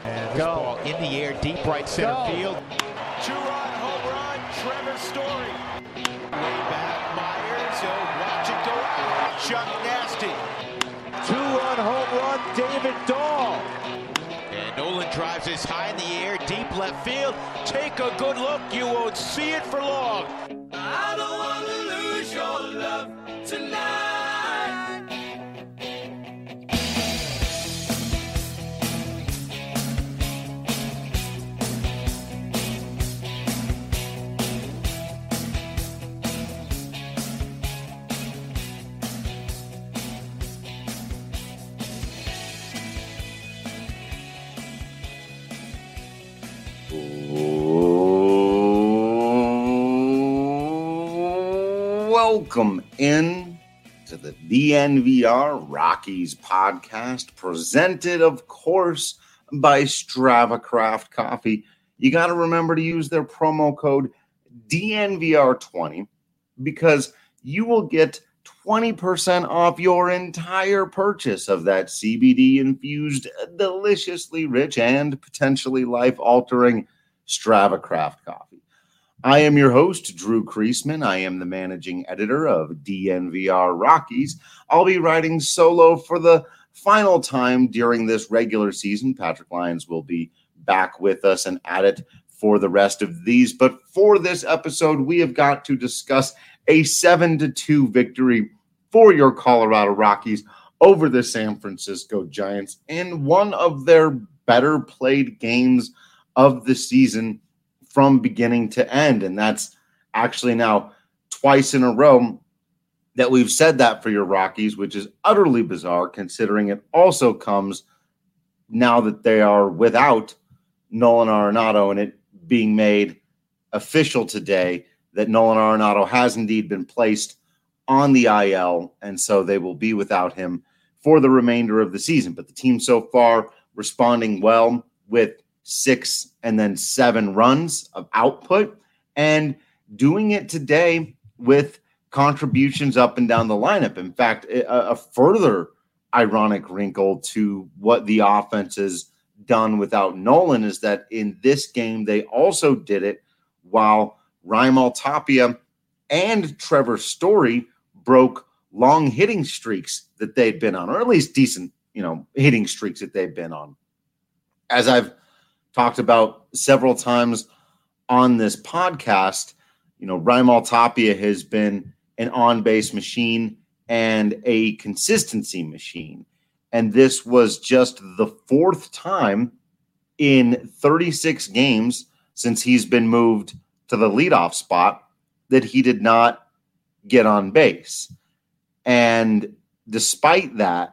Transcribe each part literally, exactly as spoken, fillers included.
And this Go. ball in the air, deep right center Go. field. Two-run home run, Trevor Story. Way back, Myers. Oh, watch it go out. Chuck Nasty. Two-run home run, David Dahl. And Nolan drives this high in the air, deep left field. Take a good look. You won't see it for long. I don't want to lose your love tonight. Welcome in to the D N V R Rockies podcast, presented, of course, by Strava Craft Coffee. You got to remember to use their promo code D N V R twenty because you will get twenty percent off your entire purchase of that C B D-infused, deliciously rich, and potentially life-altering Strava Craft Coffee. I am your host, Drew Kreisman. I am the managing editor of D N V R Rockies. I'll be riding solo for the final time during this regular season. Patrick Lyons will be back with us and at it for the rest of these. But for this episode, we have got to discuss a seven to two victory for your Colorado Rockies over the San Francisco Giants in one of their better played games of the season from beginning to end. And that's actually now twice in a row that we've said that for your Rockies, which is utterly bizarre considering it also comes now that they are without Nolan Arenado and it being made official today that Nolan Arenado has indeed been placed on the I L, and so they will be without him for the remainder of the season. But the team so far responding well with six and then seven runs of output and doing it today with contributions up and down the lineup. In fact, a, a further ironic wrinkle to what the offense has done without Nolan is that in this game, they also did it while Raimel Tapia and Trevor Story broke long hitting streaks that they'd been on, or at least decent, you know, hitting streaks that they've been on. As I've talked about several times on this podcast, you know, Raimel Tapia has been an on-base machine and a consistency machine. And this was just the fourth time in thirty-six games since he's been moved to the leadoff spot that he did not get on base. And despite that,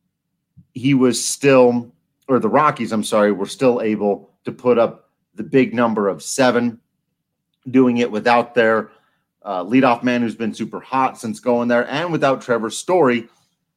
he was still, or the Rockies, I'm sorry, were still able to put up the big number of seven, doing it without their uh, leadoff man who's been super hot since going there, and without Trevor Story.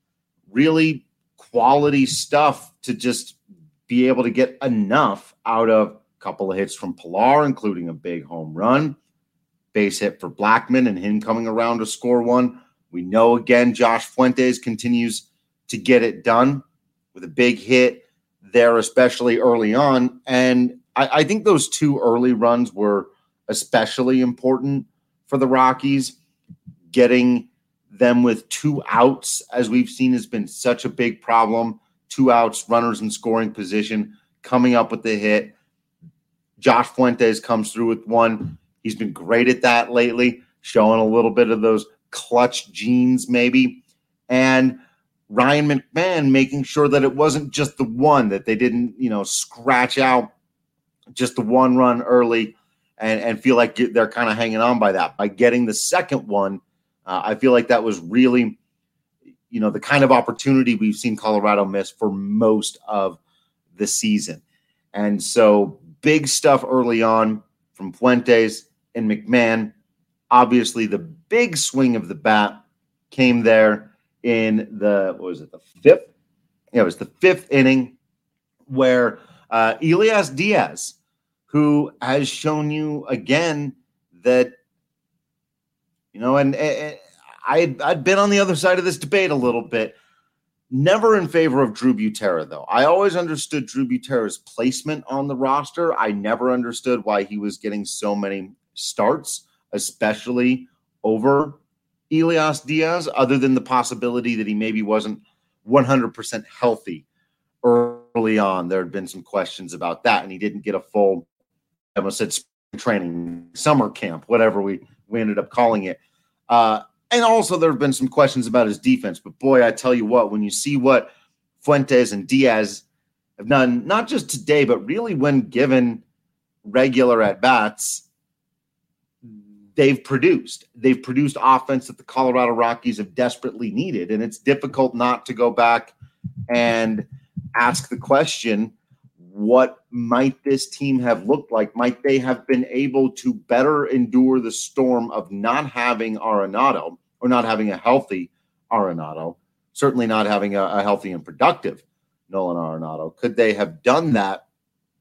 Really quality stuff to just be able to get enough out of a couple of hits from Pilar, including a big home run, base hit for Blackmon, and him coming around to score one. We know, again, Josh Fuentes continues to get it done with a big hit there, especially early on. And I, I think those two early runs were especially important for the Rockies. Getting them with two outs, as we've seen, has been such a big problem. Two outs, runners in scoring position, coming up with the hit. Josh Fuentes comes through with one. He's been great at that lately, showing a little bit of those clutch genes maybe. And Ryan McMahon making sure that it wasn't just the one, that they didn't, you know, scratch out just the one run early and, and feel like they're kind of hanging on by that. By getting the second one, uh, I feel like that was really, you know, the kind of opportunity we've seen Colorado miss for most of the season. And so big stuff early on from Fuentes and McMahon. Obviously, the big swing of the bat came there in the, what was it, the fifth? Yeah, it was the fifth inning where uh, Elias Diaz, who has shown you again that, you know, and, and I had, I'd been on the other side of this debate a little bit. Never in favor of Drew Butera, though. I always understood Drew Butera's placement on the roster. I never understood why he was getting so many starts, especially over Elias Diaz, other than the possibility that he maybe wasn't one hundred percent healthy early on. There had been some questions about that, and he didn't get a full, I almost said spring training, summer camp, whatever we, we ended up calling it. Uh, And also there have been some questions about his defense. But, boy, I tell you what, when you see what Fuentes and Diaz have done, not just today, but really when given regular at-bats, they've produced. They've produced offense that the Colorado Rockies have desperately needed. And it's difficult not to go back and ask the question, what might this team have looked like? Might they have been able to better endure the storm of not having Arenado, or not having a healthy Arenado, certainly not having a, a healthy and productive Nolan Arenado? Could they have done that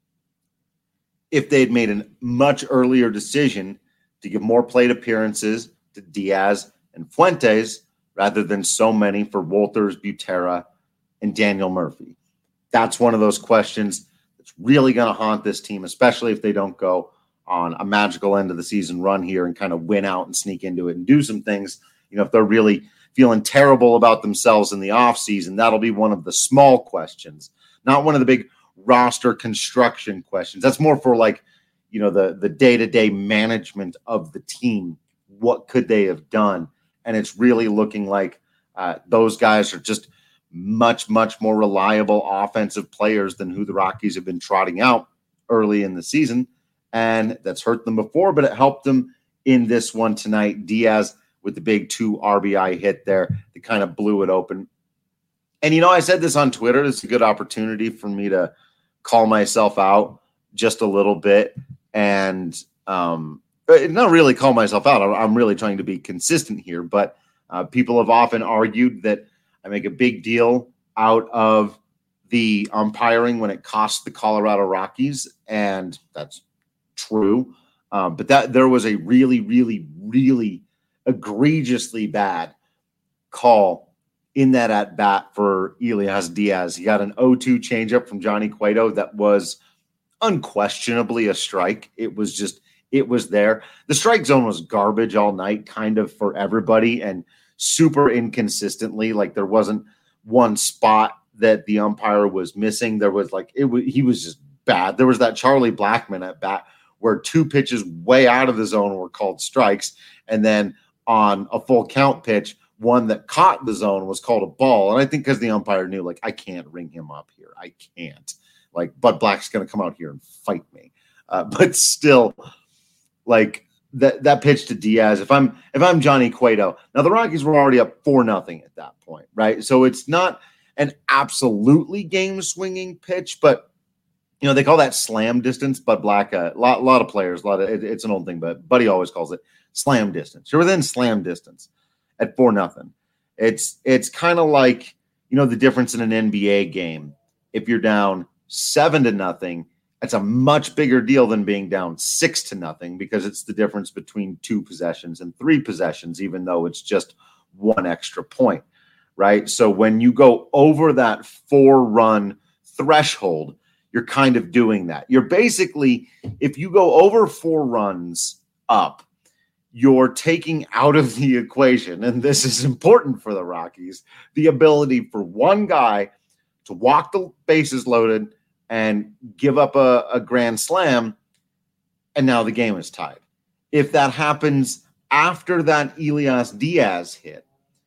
if they'd made a much earlier decision to give more plate appearances to Diaz and Fuentes rather than so many for Wolters, Butera, and Daniel Murphy? That's one of those questions that's really going to haunt this team, especially if they don't go on a magical end of the season run here and kind of win out and sneak into it and do some things. You know, if they're really feeling terrible about themselves in the offseason, that'll be one of the small questions, not one of the big roster construction questions. That's more for, like, you know, the, the day-to-day management of the team. What could they have done? And it's really looking like uh, those guys are just much, much more reliable offensive players than who the Rockies have been trotting out early in the season. And that's hurt them before, but it helped them in this one tonight. Diaz with the big two R B I hit there that kind of blew it open. And, you know, I said this on Twitter. It's a good opportunity for me to call myself out just a little bit and um, not really call myself out. I'm really trying to be consistent here, but uh, people have often argued that I make a big deal out of the umpiring when it costs the Colorado Rockies, and that's true. Um, but that there was a really, really, really egregiously bad call in that at bat for Elias Diaz. He got an oh two changeup from Johnny Cueto that was unquestionably a strike. It was just, it was there. The strike zone was garbage all night, kind of for everybody, and super inconsistently. Like, there wasn't one spot that the umpire was missing. There was like, it was, he was just bad. There was that Charlie Blackmon at bat where two pitches way out of the zone were called strikes. And then on a full count pitch, one that caught the zone was called a ball. And I think because the umpire knew, like, I can't ring him up here. I can't. Like, Bud Black's going to come out here and fight me. Uh, but still, like, that that pitch to Diaz, if I'm if I'm Johnny Cueto, now the Rockies were already up four nothing at that point, right? So it's not an absolutely game-swinging pitch, but, you know, they call that slam distance. Bud Black, a lot, lot of players, a lot of it, it's an old thing, but Buddy always calls it slam distance. You're within slam distance at four nothing. It's it's kind of like, you know, the difference in an N B A game. If you're down seven to nothing, it's a much bigger deal than being down six to nothing, because it's the difference between two possessions and three possessions, even though it's just one extra point, right? So when you go over that four-run threshold, you're kind of doing that. You're basically, if you go over four runs up, you're taking out of the equation, and this is important for the Rockies, the ability for one guy to walk the bases loaded and give up a, a grand slam, and now the game is tied. If that happens after that Elias Diaz hit,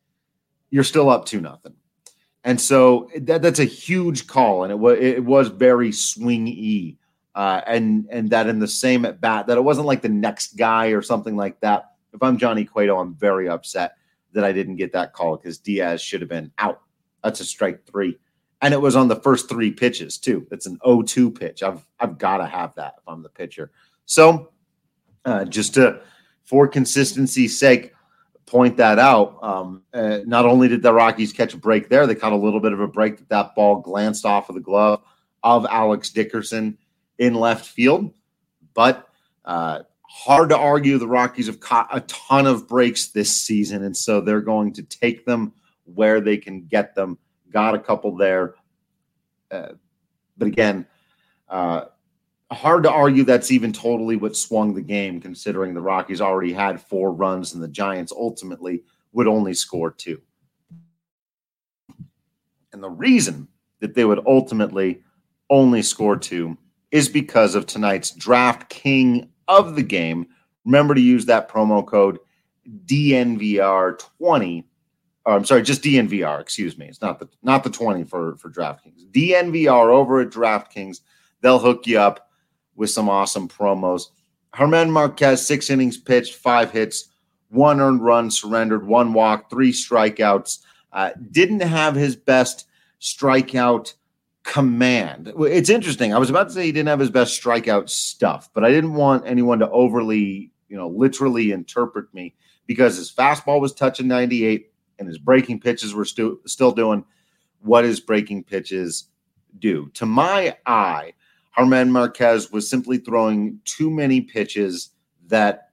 you're still up two nothing. And so that, that's a huge call, and it was it was very swing-y. Uh, and and that in the same at bat, that it wasn't like the next guy or something like that. If I'm Johnny Cueto, I'm very upset that I didn't get that call, because Diaz should have been out. That's a strike three. And it was on the first three pitches, too. It's an oh two pitch. I've I've got to have that if I'm the pitcher. So uh, just to, for consistency's sake, point that out. Um, uh, not only did the Rockies catch a break there, they caught a little bit of a break that that ball glanced off of the glove of Alex Dickerson in left field. But uh, hard to argue, the Rockies have caught a ton of breaks this season, and so they're going to take them where they can get them got a couple there. Uh, but again, uh, hard to argue that's even totally what swung the game, considering the Rockies already had four runs and the Giants ultimately would only score two. And the reason that they would ultimately only score two is because of tonight's draft king of the game. Remember to use that promo code D N V R twenty. Or I'm sorry, just D N V R, excuse me. It's not the not the twenty for, for DraftKings. D N V R over at DraftKings. They'll hook you up with some awesome promos. Germán Márquez, six innings pitched, five hits, one earned run surrendered, one walk, three strikeouts. Uh, didn't have his best strikeout command. It's interesting. I was about to say he didn't have his best strikeout stuff, but I didn't want anyone to overly, you know, literally interpret me, because his fastball was touching ninety-eight and his breaking pitches were stu- still doing what his breaking pitches do. To my eye, Germán Márquez was simply throwing too many pitches that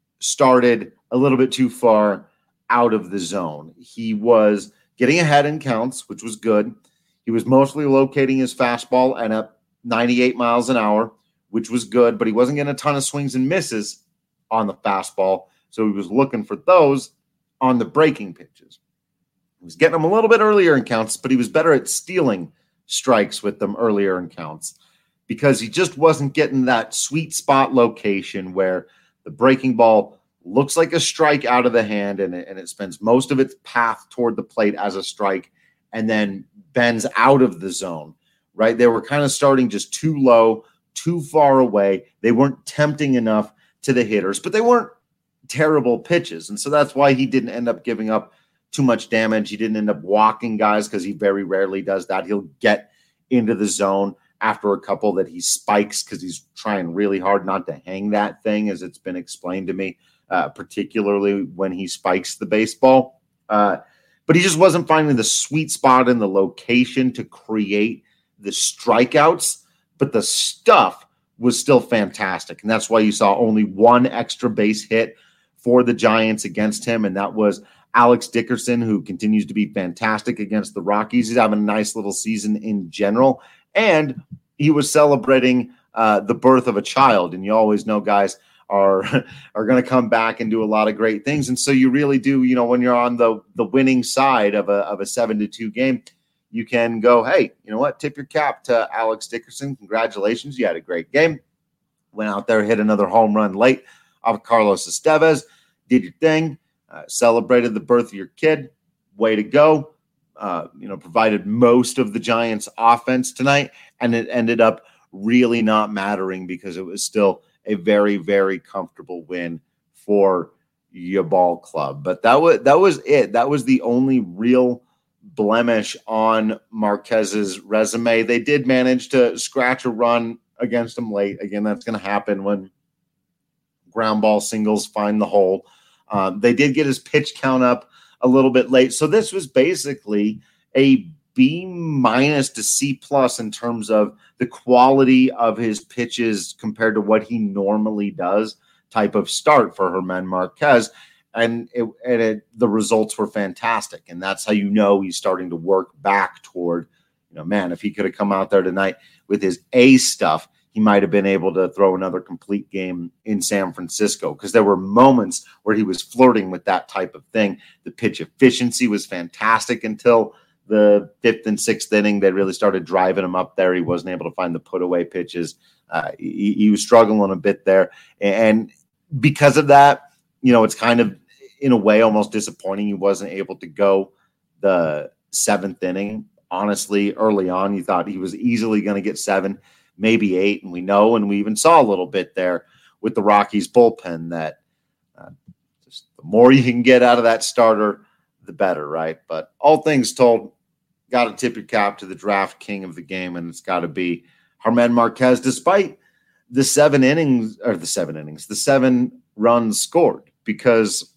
started a little bit too far out of the zone. He was getting ahead in counts, which was good. He was mostly locating his fastball and at ninety-eight miles an hour, which was good, but he wasn't getting a ton of swings and misses on the fastball. So he was looking for those on the breaking pitches. He was getting them a little bit earlier in counts, but he was better at stealing strikes with them earlier in counts, because he just wasn't getting that sweet spot location where the breaking ball looks like a strike out of the hand and it, and it spends most of its path toward the plate as a strike and then bends out of the zone, right? They were kind of starting just too low, too far away. They weren't tempting enough to the hitters, but they weren't terrible pitches. And so that's why he didn't end up giving up too much damage. He didn't end up walking guys, because he very rarely does that. He'll get into the zone after a couple that he spikes because he's trying really hard not to hang that thing, as it's been explained to me, uh, particularly when he spikes the baseball. Uh, but he just wasn't finding the sweet spot in the location to create the strikeouts, but the stuff was still fantastic. And that's why you saw only one extra base hit for the Giants against him, and that was Alex Dickerson, who continues to be fantastic against the Rockies. He's having a nice little season in general, and he was celebrating uh, the birth of a child. And you always know guys are are going to come back and do a lot of great things. And so you really do, you know, when you're on the the winning side of a of a seven to two game, you can go, hey, you know what? Tip your cap to Alex Dickerson. Congratulations, you had a great game. Went out there, hit another home run late off Carlos Estevez. Did your thing. Uh, celebrated the birth of your kid. Way to go. Uh, you know, provided most of the Giants' offense tonight, and it ended up really not mattering because it was still a very, very comfortable win for your ball club. But that was that was it. That was the only real blemish on Marquez's resume. They did manage to scratch a run against him late. Again, that's going to happen when ground ball singles find the hole. Um, they did get his pitch count up a little bit late. So this was basically a B minus to C plus in terms of the quality of his pitches compared to what he normally does type of start for Germán Márquez. And, it, and it, the results were fantastic. And that's how you know he's starting to work back toward, you know, man, if he could have come out there tonight with his A stuff, he might have been able to throw another complete game in San Francisco, because there were moments where he was flirting with that type of thing. The pitch efficiency was fantastic until the fifth and sixth inning. They really started driving him up there. He wasn't able to find the put away pitches. Uh, he, he was struggling a bit there. And because of that, you know, it's kind of, in a way, almost disappointing he wasn't able to go the seventh inning. Honestly, early on, you thought he was easily going to get seven, maybe eight, and we know, and we even saw a little bit there with the Rockies bullpen that uh, just the more you can get out of that starter, the better, right? But all things told, got to tip your cap to the draft king of the game, and it's got to be Germán Márquez, despite the seven innings, or the seven innings, the seven runs scored, because,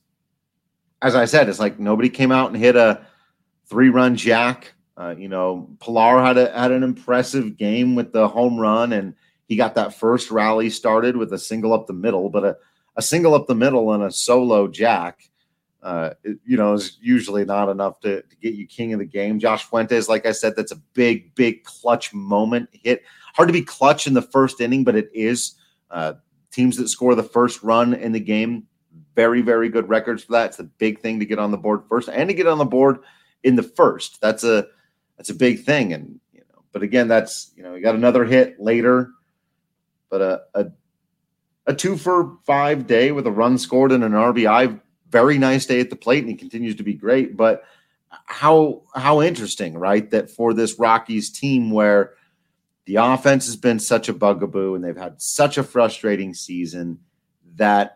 as I said, it's like nobody came out and hit a three-run jack. Uh, you know, Pilar had a, had an impressive game with the home run, and he got that first rally started with a single up the middle, but a, a single up the middle and a solo jack uh, it, you know, is usually not enough to, to get you king of the game. Josh Fuentes, like I said, that's a big, big clutch moment hit. Hard to be clutch in the first inning, but it is. Uh, teams that score the first run in the game, very, very good records for that. It's a big thing to get on the board first and to get on the board in the first. That's a that's a big thing. And you know, but again, that's you know, you got another hit later, but a a, a two for five day with a run scored and an R B I. Very nice day at the plate, and he continues to be great. But how how interesting, right? That for this Rockies team where the offense has been such a bugaboo and they've had such a frustrating season that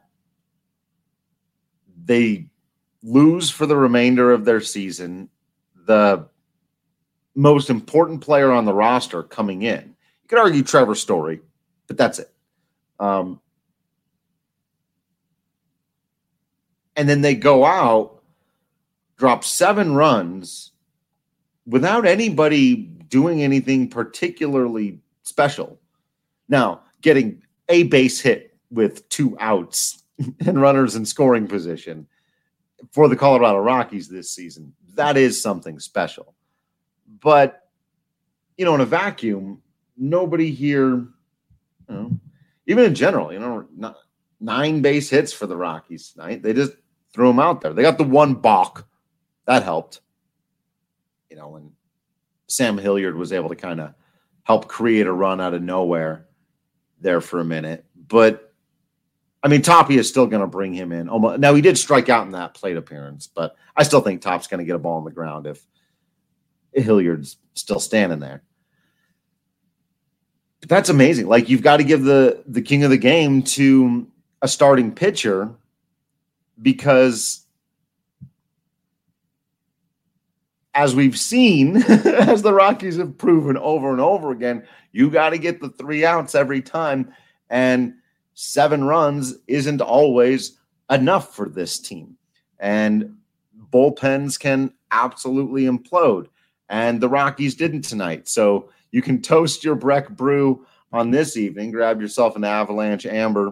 they lose for the remainder of their season the most important player on the roster coming in. You could argue Trevor Story, but that's it. Um, and then they go out, drop seven runs without anybody doing anything particularly special. Now, getting a base hit with two outs and runners in scoring position for the Colorado Rockies this season, that is something special. But, you know, in a vacuum, nobody here, you know, even in general, you know, not, nine base hits for the Rockies tonight. They just threw them out there. They got the one balk. That helped. You know, and Sam Hilliard was able to kind of help create a run out of nowhere there for a minute. But, I mean, Toppy is still going to bring him in. Almost, now, he did strike out in that plate appearance, but I still think Top's going to get a ball on the ground if Hilliard's still standing there. But that's amazing. Like, you've got to give the, the king of the game to a starting pitcher because – as we've seen, as the Rockies have proven over and over again, you got to get the three outs every time. And seven runs isn't always enough for this team. And bullpens can absolutely implode. And the Rockies didn't tonight. So you can toast your Breck Brew on this evening. Grab yourself an Avalanche Amber.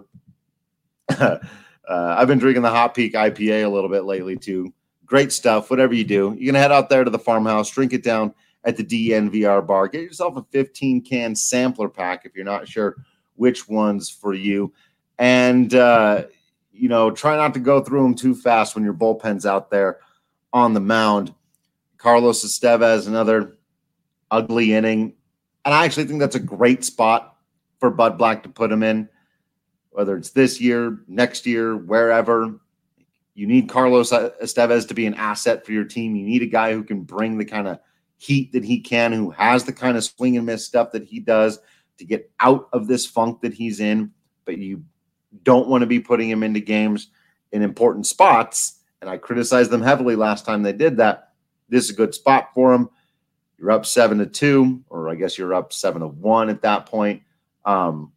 uh, I've been drinking the Hot Peak I P A a little bit lately, too. Great stuff. Whatever you do, you're going to head out there to the farmhouse, drink it down at the D N V R bar. Get yourself a fifteen can sampler pack if you're not sure which one's for you. And, uh, you know, try not to go through them too fast when your bullpen's out there on the mound. Carlos Estevez, another ugly inning. And I actually think that's a great spot for Bud Black to put him in, whether it's this year, next year, wherever. You need Carlos Estevez to be an asset for your team. You need a guy who can bring the kind of heat that he can, who has the kind of swing and miss stuff that he does to get out of this funk that he's in. But you don't want to be putting him into games in important spots. And I criticized them heavily last time they did that. This is a good spot for him. You're up seven to two, or I guess you're up seven to one at that point. Um,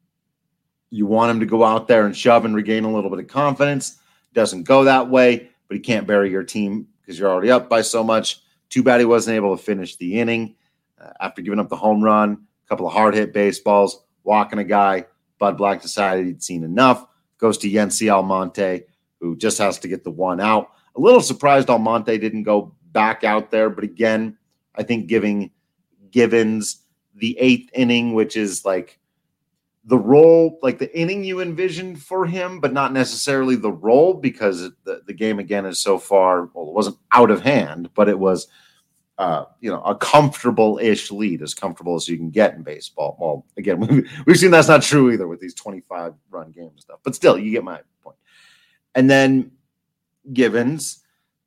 you want him to go out there and shove and regain a little bit of confidence. Doesn't go that way, but he can't bury your team because you're already up by so much. Too bad he wasn't able to finish the inning uh, after giving up the home run, a couple of hard hit baseballs, walking a guy. Bud Black decided he'd seen enough. Goes to Yency Almonte, who just has to get the one out. A little surprised Almonte didn't go back out there, but again, I think giving Givens the eighth inning, which is like the role, like the inning you envisioned for him, but not necessarily the role because the, the game, again, is so far, well, it wasn't out of hand, but it was, uh, you know, a comfortable-ish lead, as comfortable as you can get in baseball. Well, again, we've, we've seen that's not true either with these twenty-five run games and stuff, but still, you get my point. And then Givens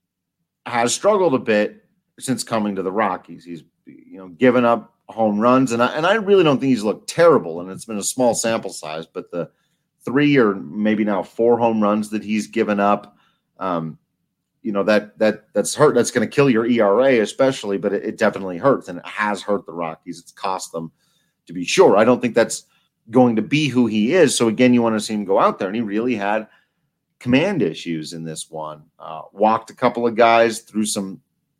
has struggled a bit since coming to the Rockies. He's, you know, given up home runs, and I, and I really don't think he's looked terrible, and it's been a small sample size, but the three or maybe now four home runs that he's given up, um, you know, that that that's hurt. That's going to kill your E R A especially, but it, it definitely hurts, and it has hurt the Rockies. It's cost them, to be sure. I don't think that's going to be who he is, so again, you want to see him go out there, and he really had command issues in this one. Uh, walked a couple of guys through some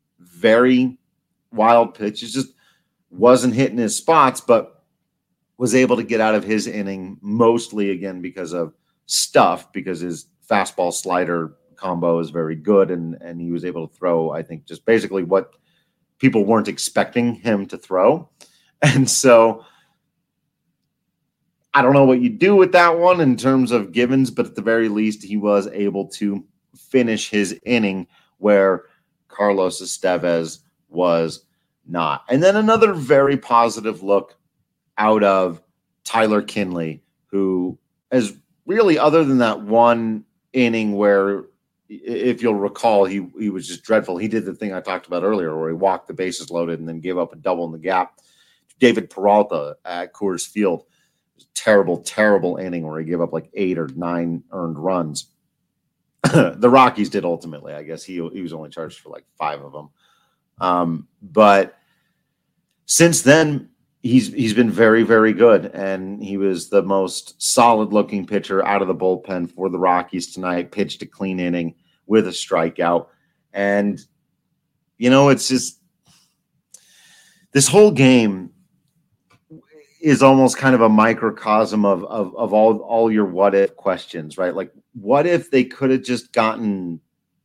very wild pitches, just wasn't hitting his spots, but was able to get out of his inning mostly, again, because of stuff, because his fastball slider combo is very good, and, and he was able to throw, I think, just basically what people weren't expecting him to throw. And so I don't know what you do with that one in terms of Givens, but at the very least, he was able to finish his inning where Carlos Estevez was not. And then another very positive look out of Tyler Kinley, who is really, other than that one inning where, if you'll recall, he, he was just dreadful. He did the thing I talked about earlier where he walked the bases loaded and then gave up a double in the gap. David Peralta at Coors Field. Terrible, terrible inning where he gave up like eight or nine earned runs. The Rockies did ultimately. I guess he, he was only charged for like five of them. Um, but since then, he's he's been very, very good. And he was the most solid-looking pitcher out of the bullpen for the Rockies tonight, pitched a clean inning with a strikeout. And, you know, it's just this whole game is almost kind of a microcosm of, of, of all, all your what if questions, right? Like, what if they could have just gotten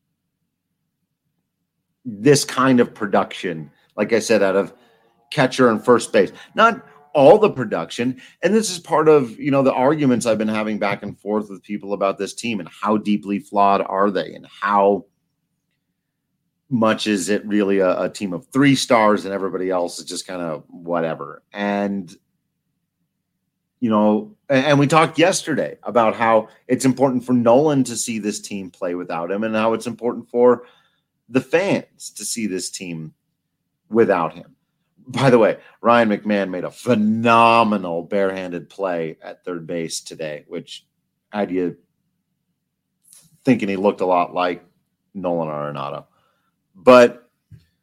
this kind of production, like I said, out of catcher and first base, not all the production. And this is part of, you know, the arguments I've been having back and forth with people about this team and how deeply flawed are they and how much is it really a, a team of three stars and everybody else is just kind of whatever. And, you know, and we talked yesterday about how it's important for Nolan to see this team play without him and how it's important for the fans to see this team without him. By the way, Ryan McMahon made a phenomenal barehanded play at third base today, which had you thinking he looked a lot like Nolan Arenado. But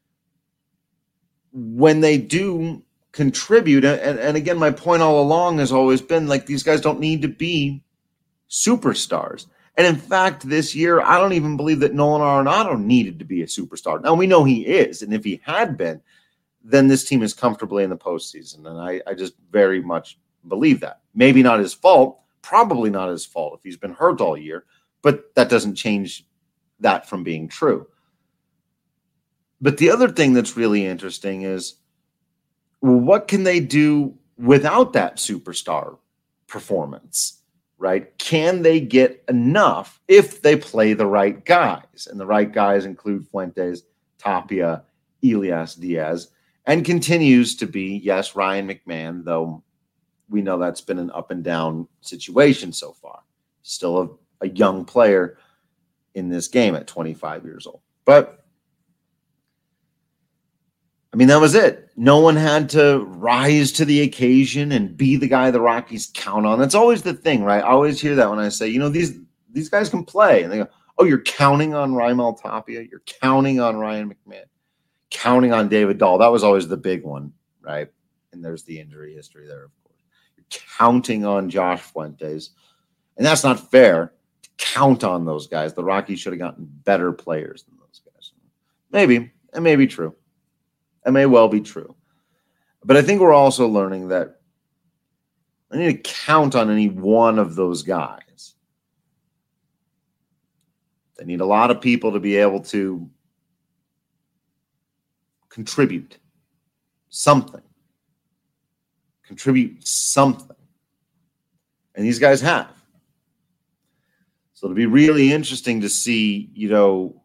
when they do contribute, and, and again, my point all along has always been like these guys don't need to be superstars. And in fact, this year, I don't even believe that Nolan Arenado needed to be a superstar. Now, we know he is, and if he had been, then this team is comfortably in the postseason. And I, I just very much believe that. Maybe not his fault, probably not his fault if he's been hurt all year, but that doesn't change that from being true. But the other thing that's really interesting is, well, what can they do without that superstar performance, right? Can they get enough if they play the right guys? And the right guys include Fuentes, Tapia, Elias Diaz, and continues to be, yes, Ryan McMahon, though we know that's been an up and down situation so far. Still a, a young player in this game at twenty-five years old. But I mean, that was it. No one had to rise to the occasion and be the guy the Rockies count on. That's always the thing, right? I always hear that when I say, you know, these these guys can play. And they go, oh, you're counting on Raimel Tapia? You're counting on Ryan McMahon? Counting on David Dahl? That was always the big one, right? And there's the injury history there, of course. You're counting on Josh Fuentes. And that's not fair to count on those guys. The Rockies should have gotten better players than those guys. Maybe. It may be true. It may well be true. But I think we're also learning that I need to count on any one of those guys. They need a lot of people to be able to contribute something. Contribute something. And these guys have. So it'll be really interesting to see, you know,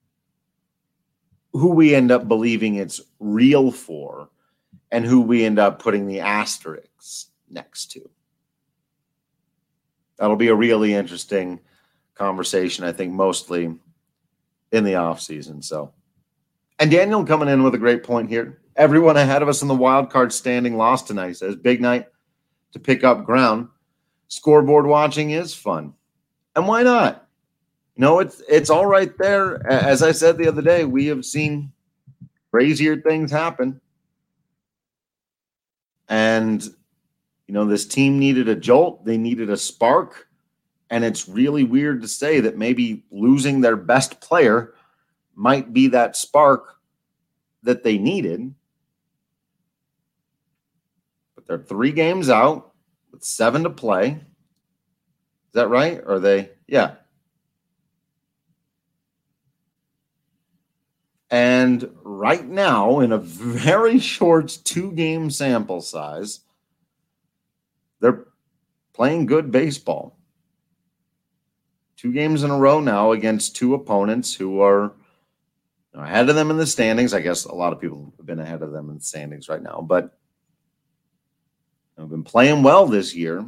who we end up believing it's real for and who we end up putting the asterisks next to. That'll be a really interesting conversation, I think, mostly in the offseason. So, and Daniel coming in with a great point here. Everyone ahead of us in the wild card standing lost tonight. He says, big night to pick up ground. Scoreboard watching is fun. And why not? No, it's it's all right there. As I said the other day, we have seen crazier things happen. And, you know, this team needed a jolt. They needed a spark. And it's really weird to say that maybe losing their best player might be that spark that they needed. But they're three games out with seven to play. Is that right? Or are they? Yeah. And right now, in a very short two-game sample size, they're playing good baseball. Two games in a row now against two opponents who are ahead of them in the standings. I guess a lot of people have been ahead of them in the standings right now, but they've been playing well this year.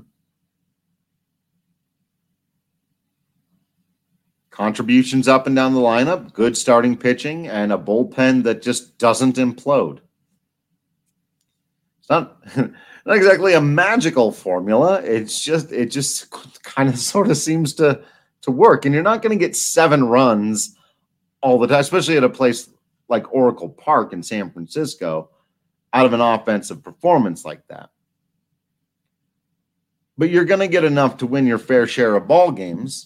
Contributions up and down the lineup, good starting pitching, and a bullpen that just doesn't implode. It's not, not exactly a magical formula. It's just it just kind of sort of seems to, to work. And you're not going to get seven runs all the time, especially at a place like Oracle Park in San Francisco, out of an offensive performance like that. But you're going to get enough to win your fair share of ball games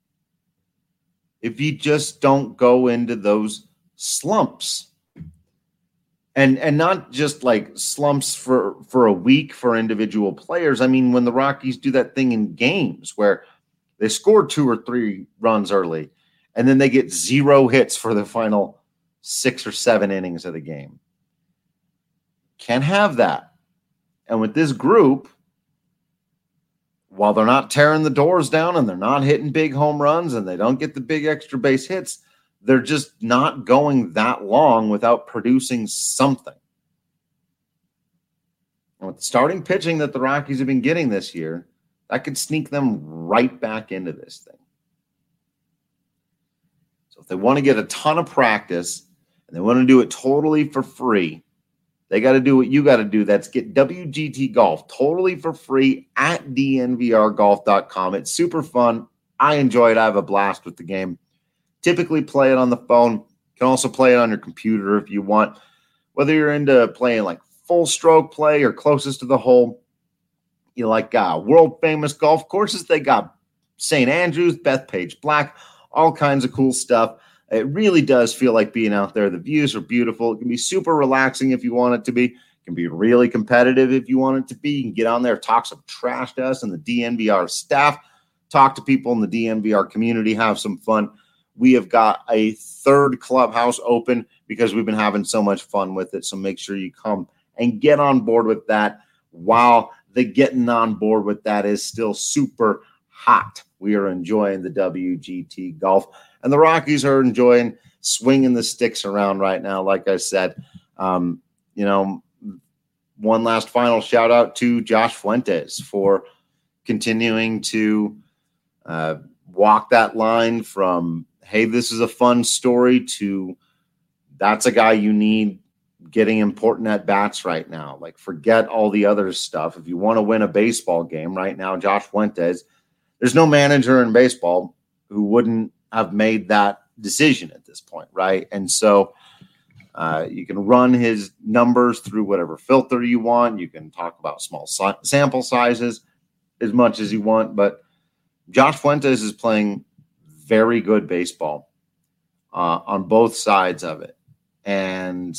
if you just don't go into those slumps. And and not just like slumps for, for a week for individual players. I mean, when the Rockies do that thing in games where they score two or three runs early and then they get zero hits for the final six or seven innings of the game. Can't have that. And with this group, while they're not tearing the doors down and they're not hitting big home runs and they don't get the big extra base hits, they're just not going that long without producing something. And with the starting pitching that the Rockies have been getting this year, that could sneak them right back into this thing. So if they want to get a ton of practice and they want to do it totally for free, they got to do what you got to do. That's get W G T Golf totally for free at D N V R golf dot com. It's super fun. I enjoy it. I have a blast with the game. Typically play it on the phone. You can also play it on your computer if you want. Whether you're into playing like full stroke play or closest to the hole, you like uh, world famous golf courses. They got Saint Andrews, Bethpage Black, all kinds of cool stuff. It really does feel like being out there. The views are beautiful. It can be super relaxing if you want it to be. It can be really competitive if you want it to be. You can get on there, talk some trash to us and the D N V R staff, talk to people in the D N V R community, have some fun. We have got a third clubhouse open because we've been having so much fun with it. So make sure you come and get on board with that while the getting on board with that is still super hot. We are enjoying the W G T Golf. And the Rockies are enjoying swinging the sticks around right now. Like I said, um, you know, one last final shout out to Josh Fuentes for continuing to uh, walk that line from, hey, this is a fun story to that's a guy you need getting important at bats right now. Like, forget all the other stuff. If you want to win a baseball game right now, Josh Fuentes, there's no manager in baseball who wouldn't have made that decision at this point, right? And so uh, you can run his numbers through whatever filter you want. You can talk about small si- sample sizes as much as you want, but Josh Fuentes is playing very good baseball uh, on both sides of it. And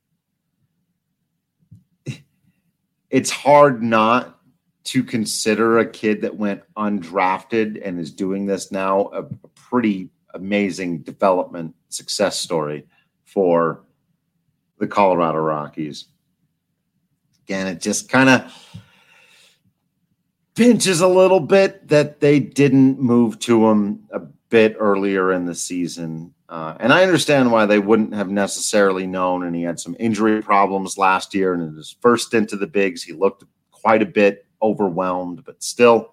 it's hard not to consider a kid that went undrafted and is doing this now a, a pretty amazing development success story for the Colorado Rockies. Again, it just kind of pinches a little bit that they didn't move to him a bit earlier in the season. Uh, and I understand why they wouldn't have necessarily known, and he had some injury problems last year, and in his first stint to the bigs, he looked quite a bit overwhelmed, but still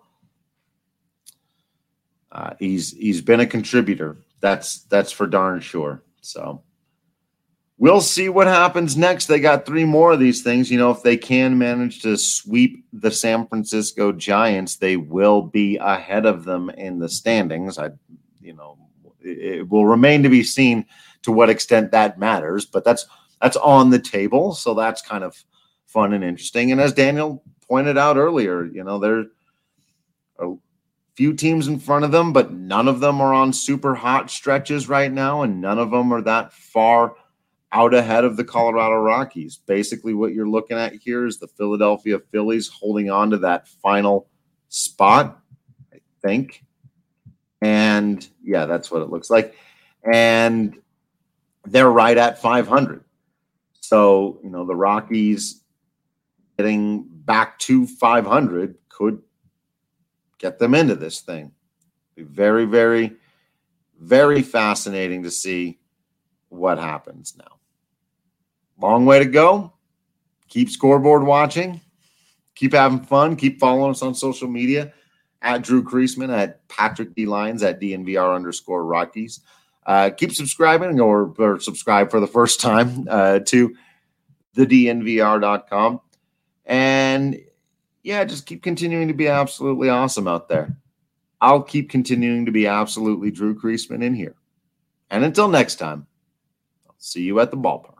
uh, he's he's been a contributor. That's that's for darn sure. So we'll see what happens next. They got three more of these things. You know, if they can manage to sweep the San Francisco Giants, they will be ahead of them in the standings. I, you know, it, it will remain to be seen to what extent that matters, but that's that's on the table. So that's kind of fun and interesting. And as Daniel pointed out earlier, you know, there are a few teams in front of them, but none of them are on super hot stretches right now, and none of them are that far out ahead of the Colorado Rockies. Basically, what you're looking at here is the Philadelphia Phillies holding on to that final spot, I think. And, yeah, that's what it looks like. And they're right at five hundred. So, you know, the Rockies getting back to five hundred could get them into this thing. Be very, very, very fascinating to see what happens now. Long way to go. Keep scoreboard watching. Keep having fun. Keep following us on social media at Drew Creasman, at Patrick D. Lyons, at D N V R underscore Rockies. Uh, keep subscribing or, or subscribe for the first time uh, to the D N V R dot com. And yeah, just keep continuing to be absolutely awesome out there. I'll keep continuing to be absolutely Drew Creasman in here. And until next time, I'll see you at the ballpark.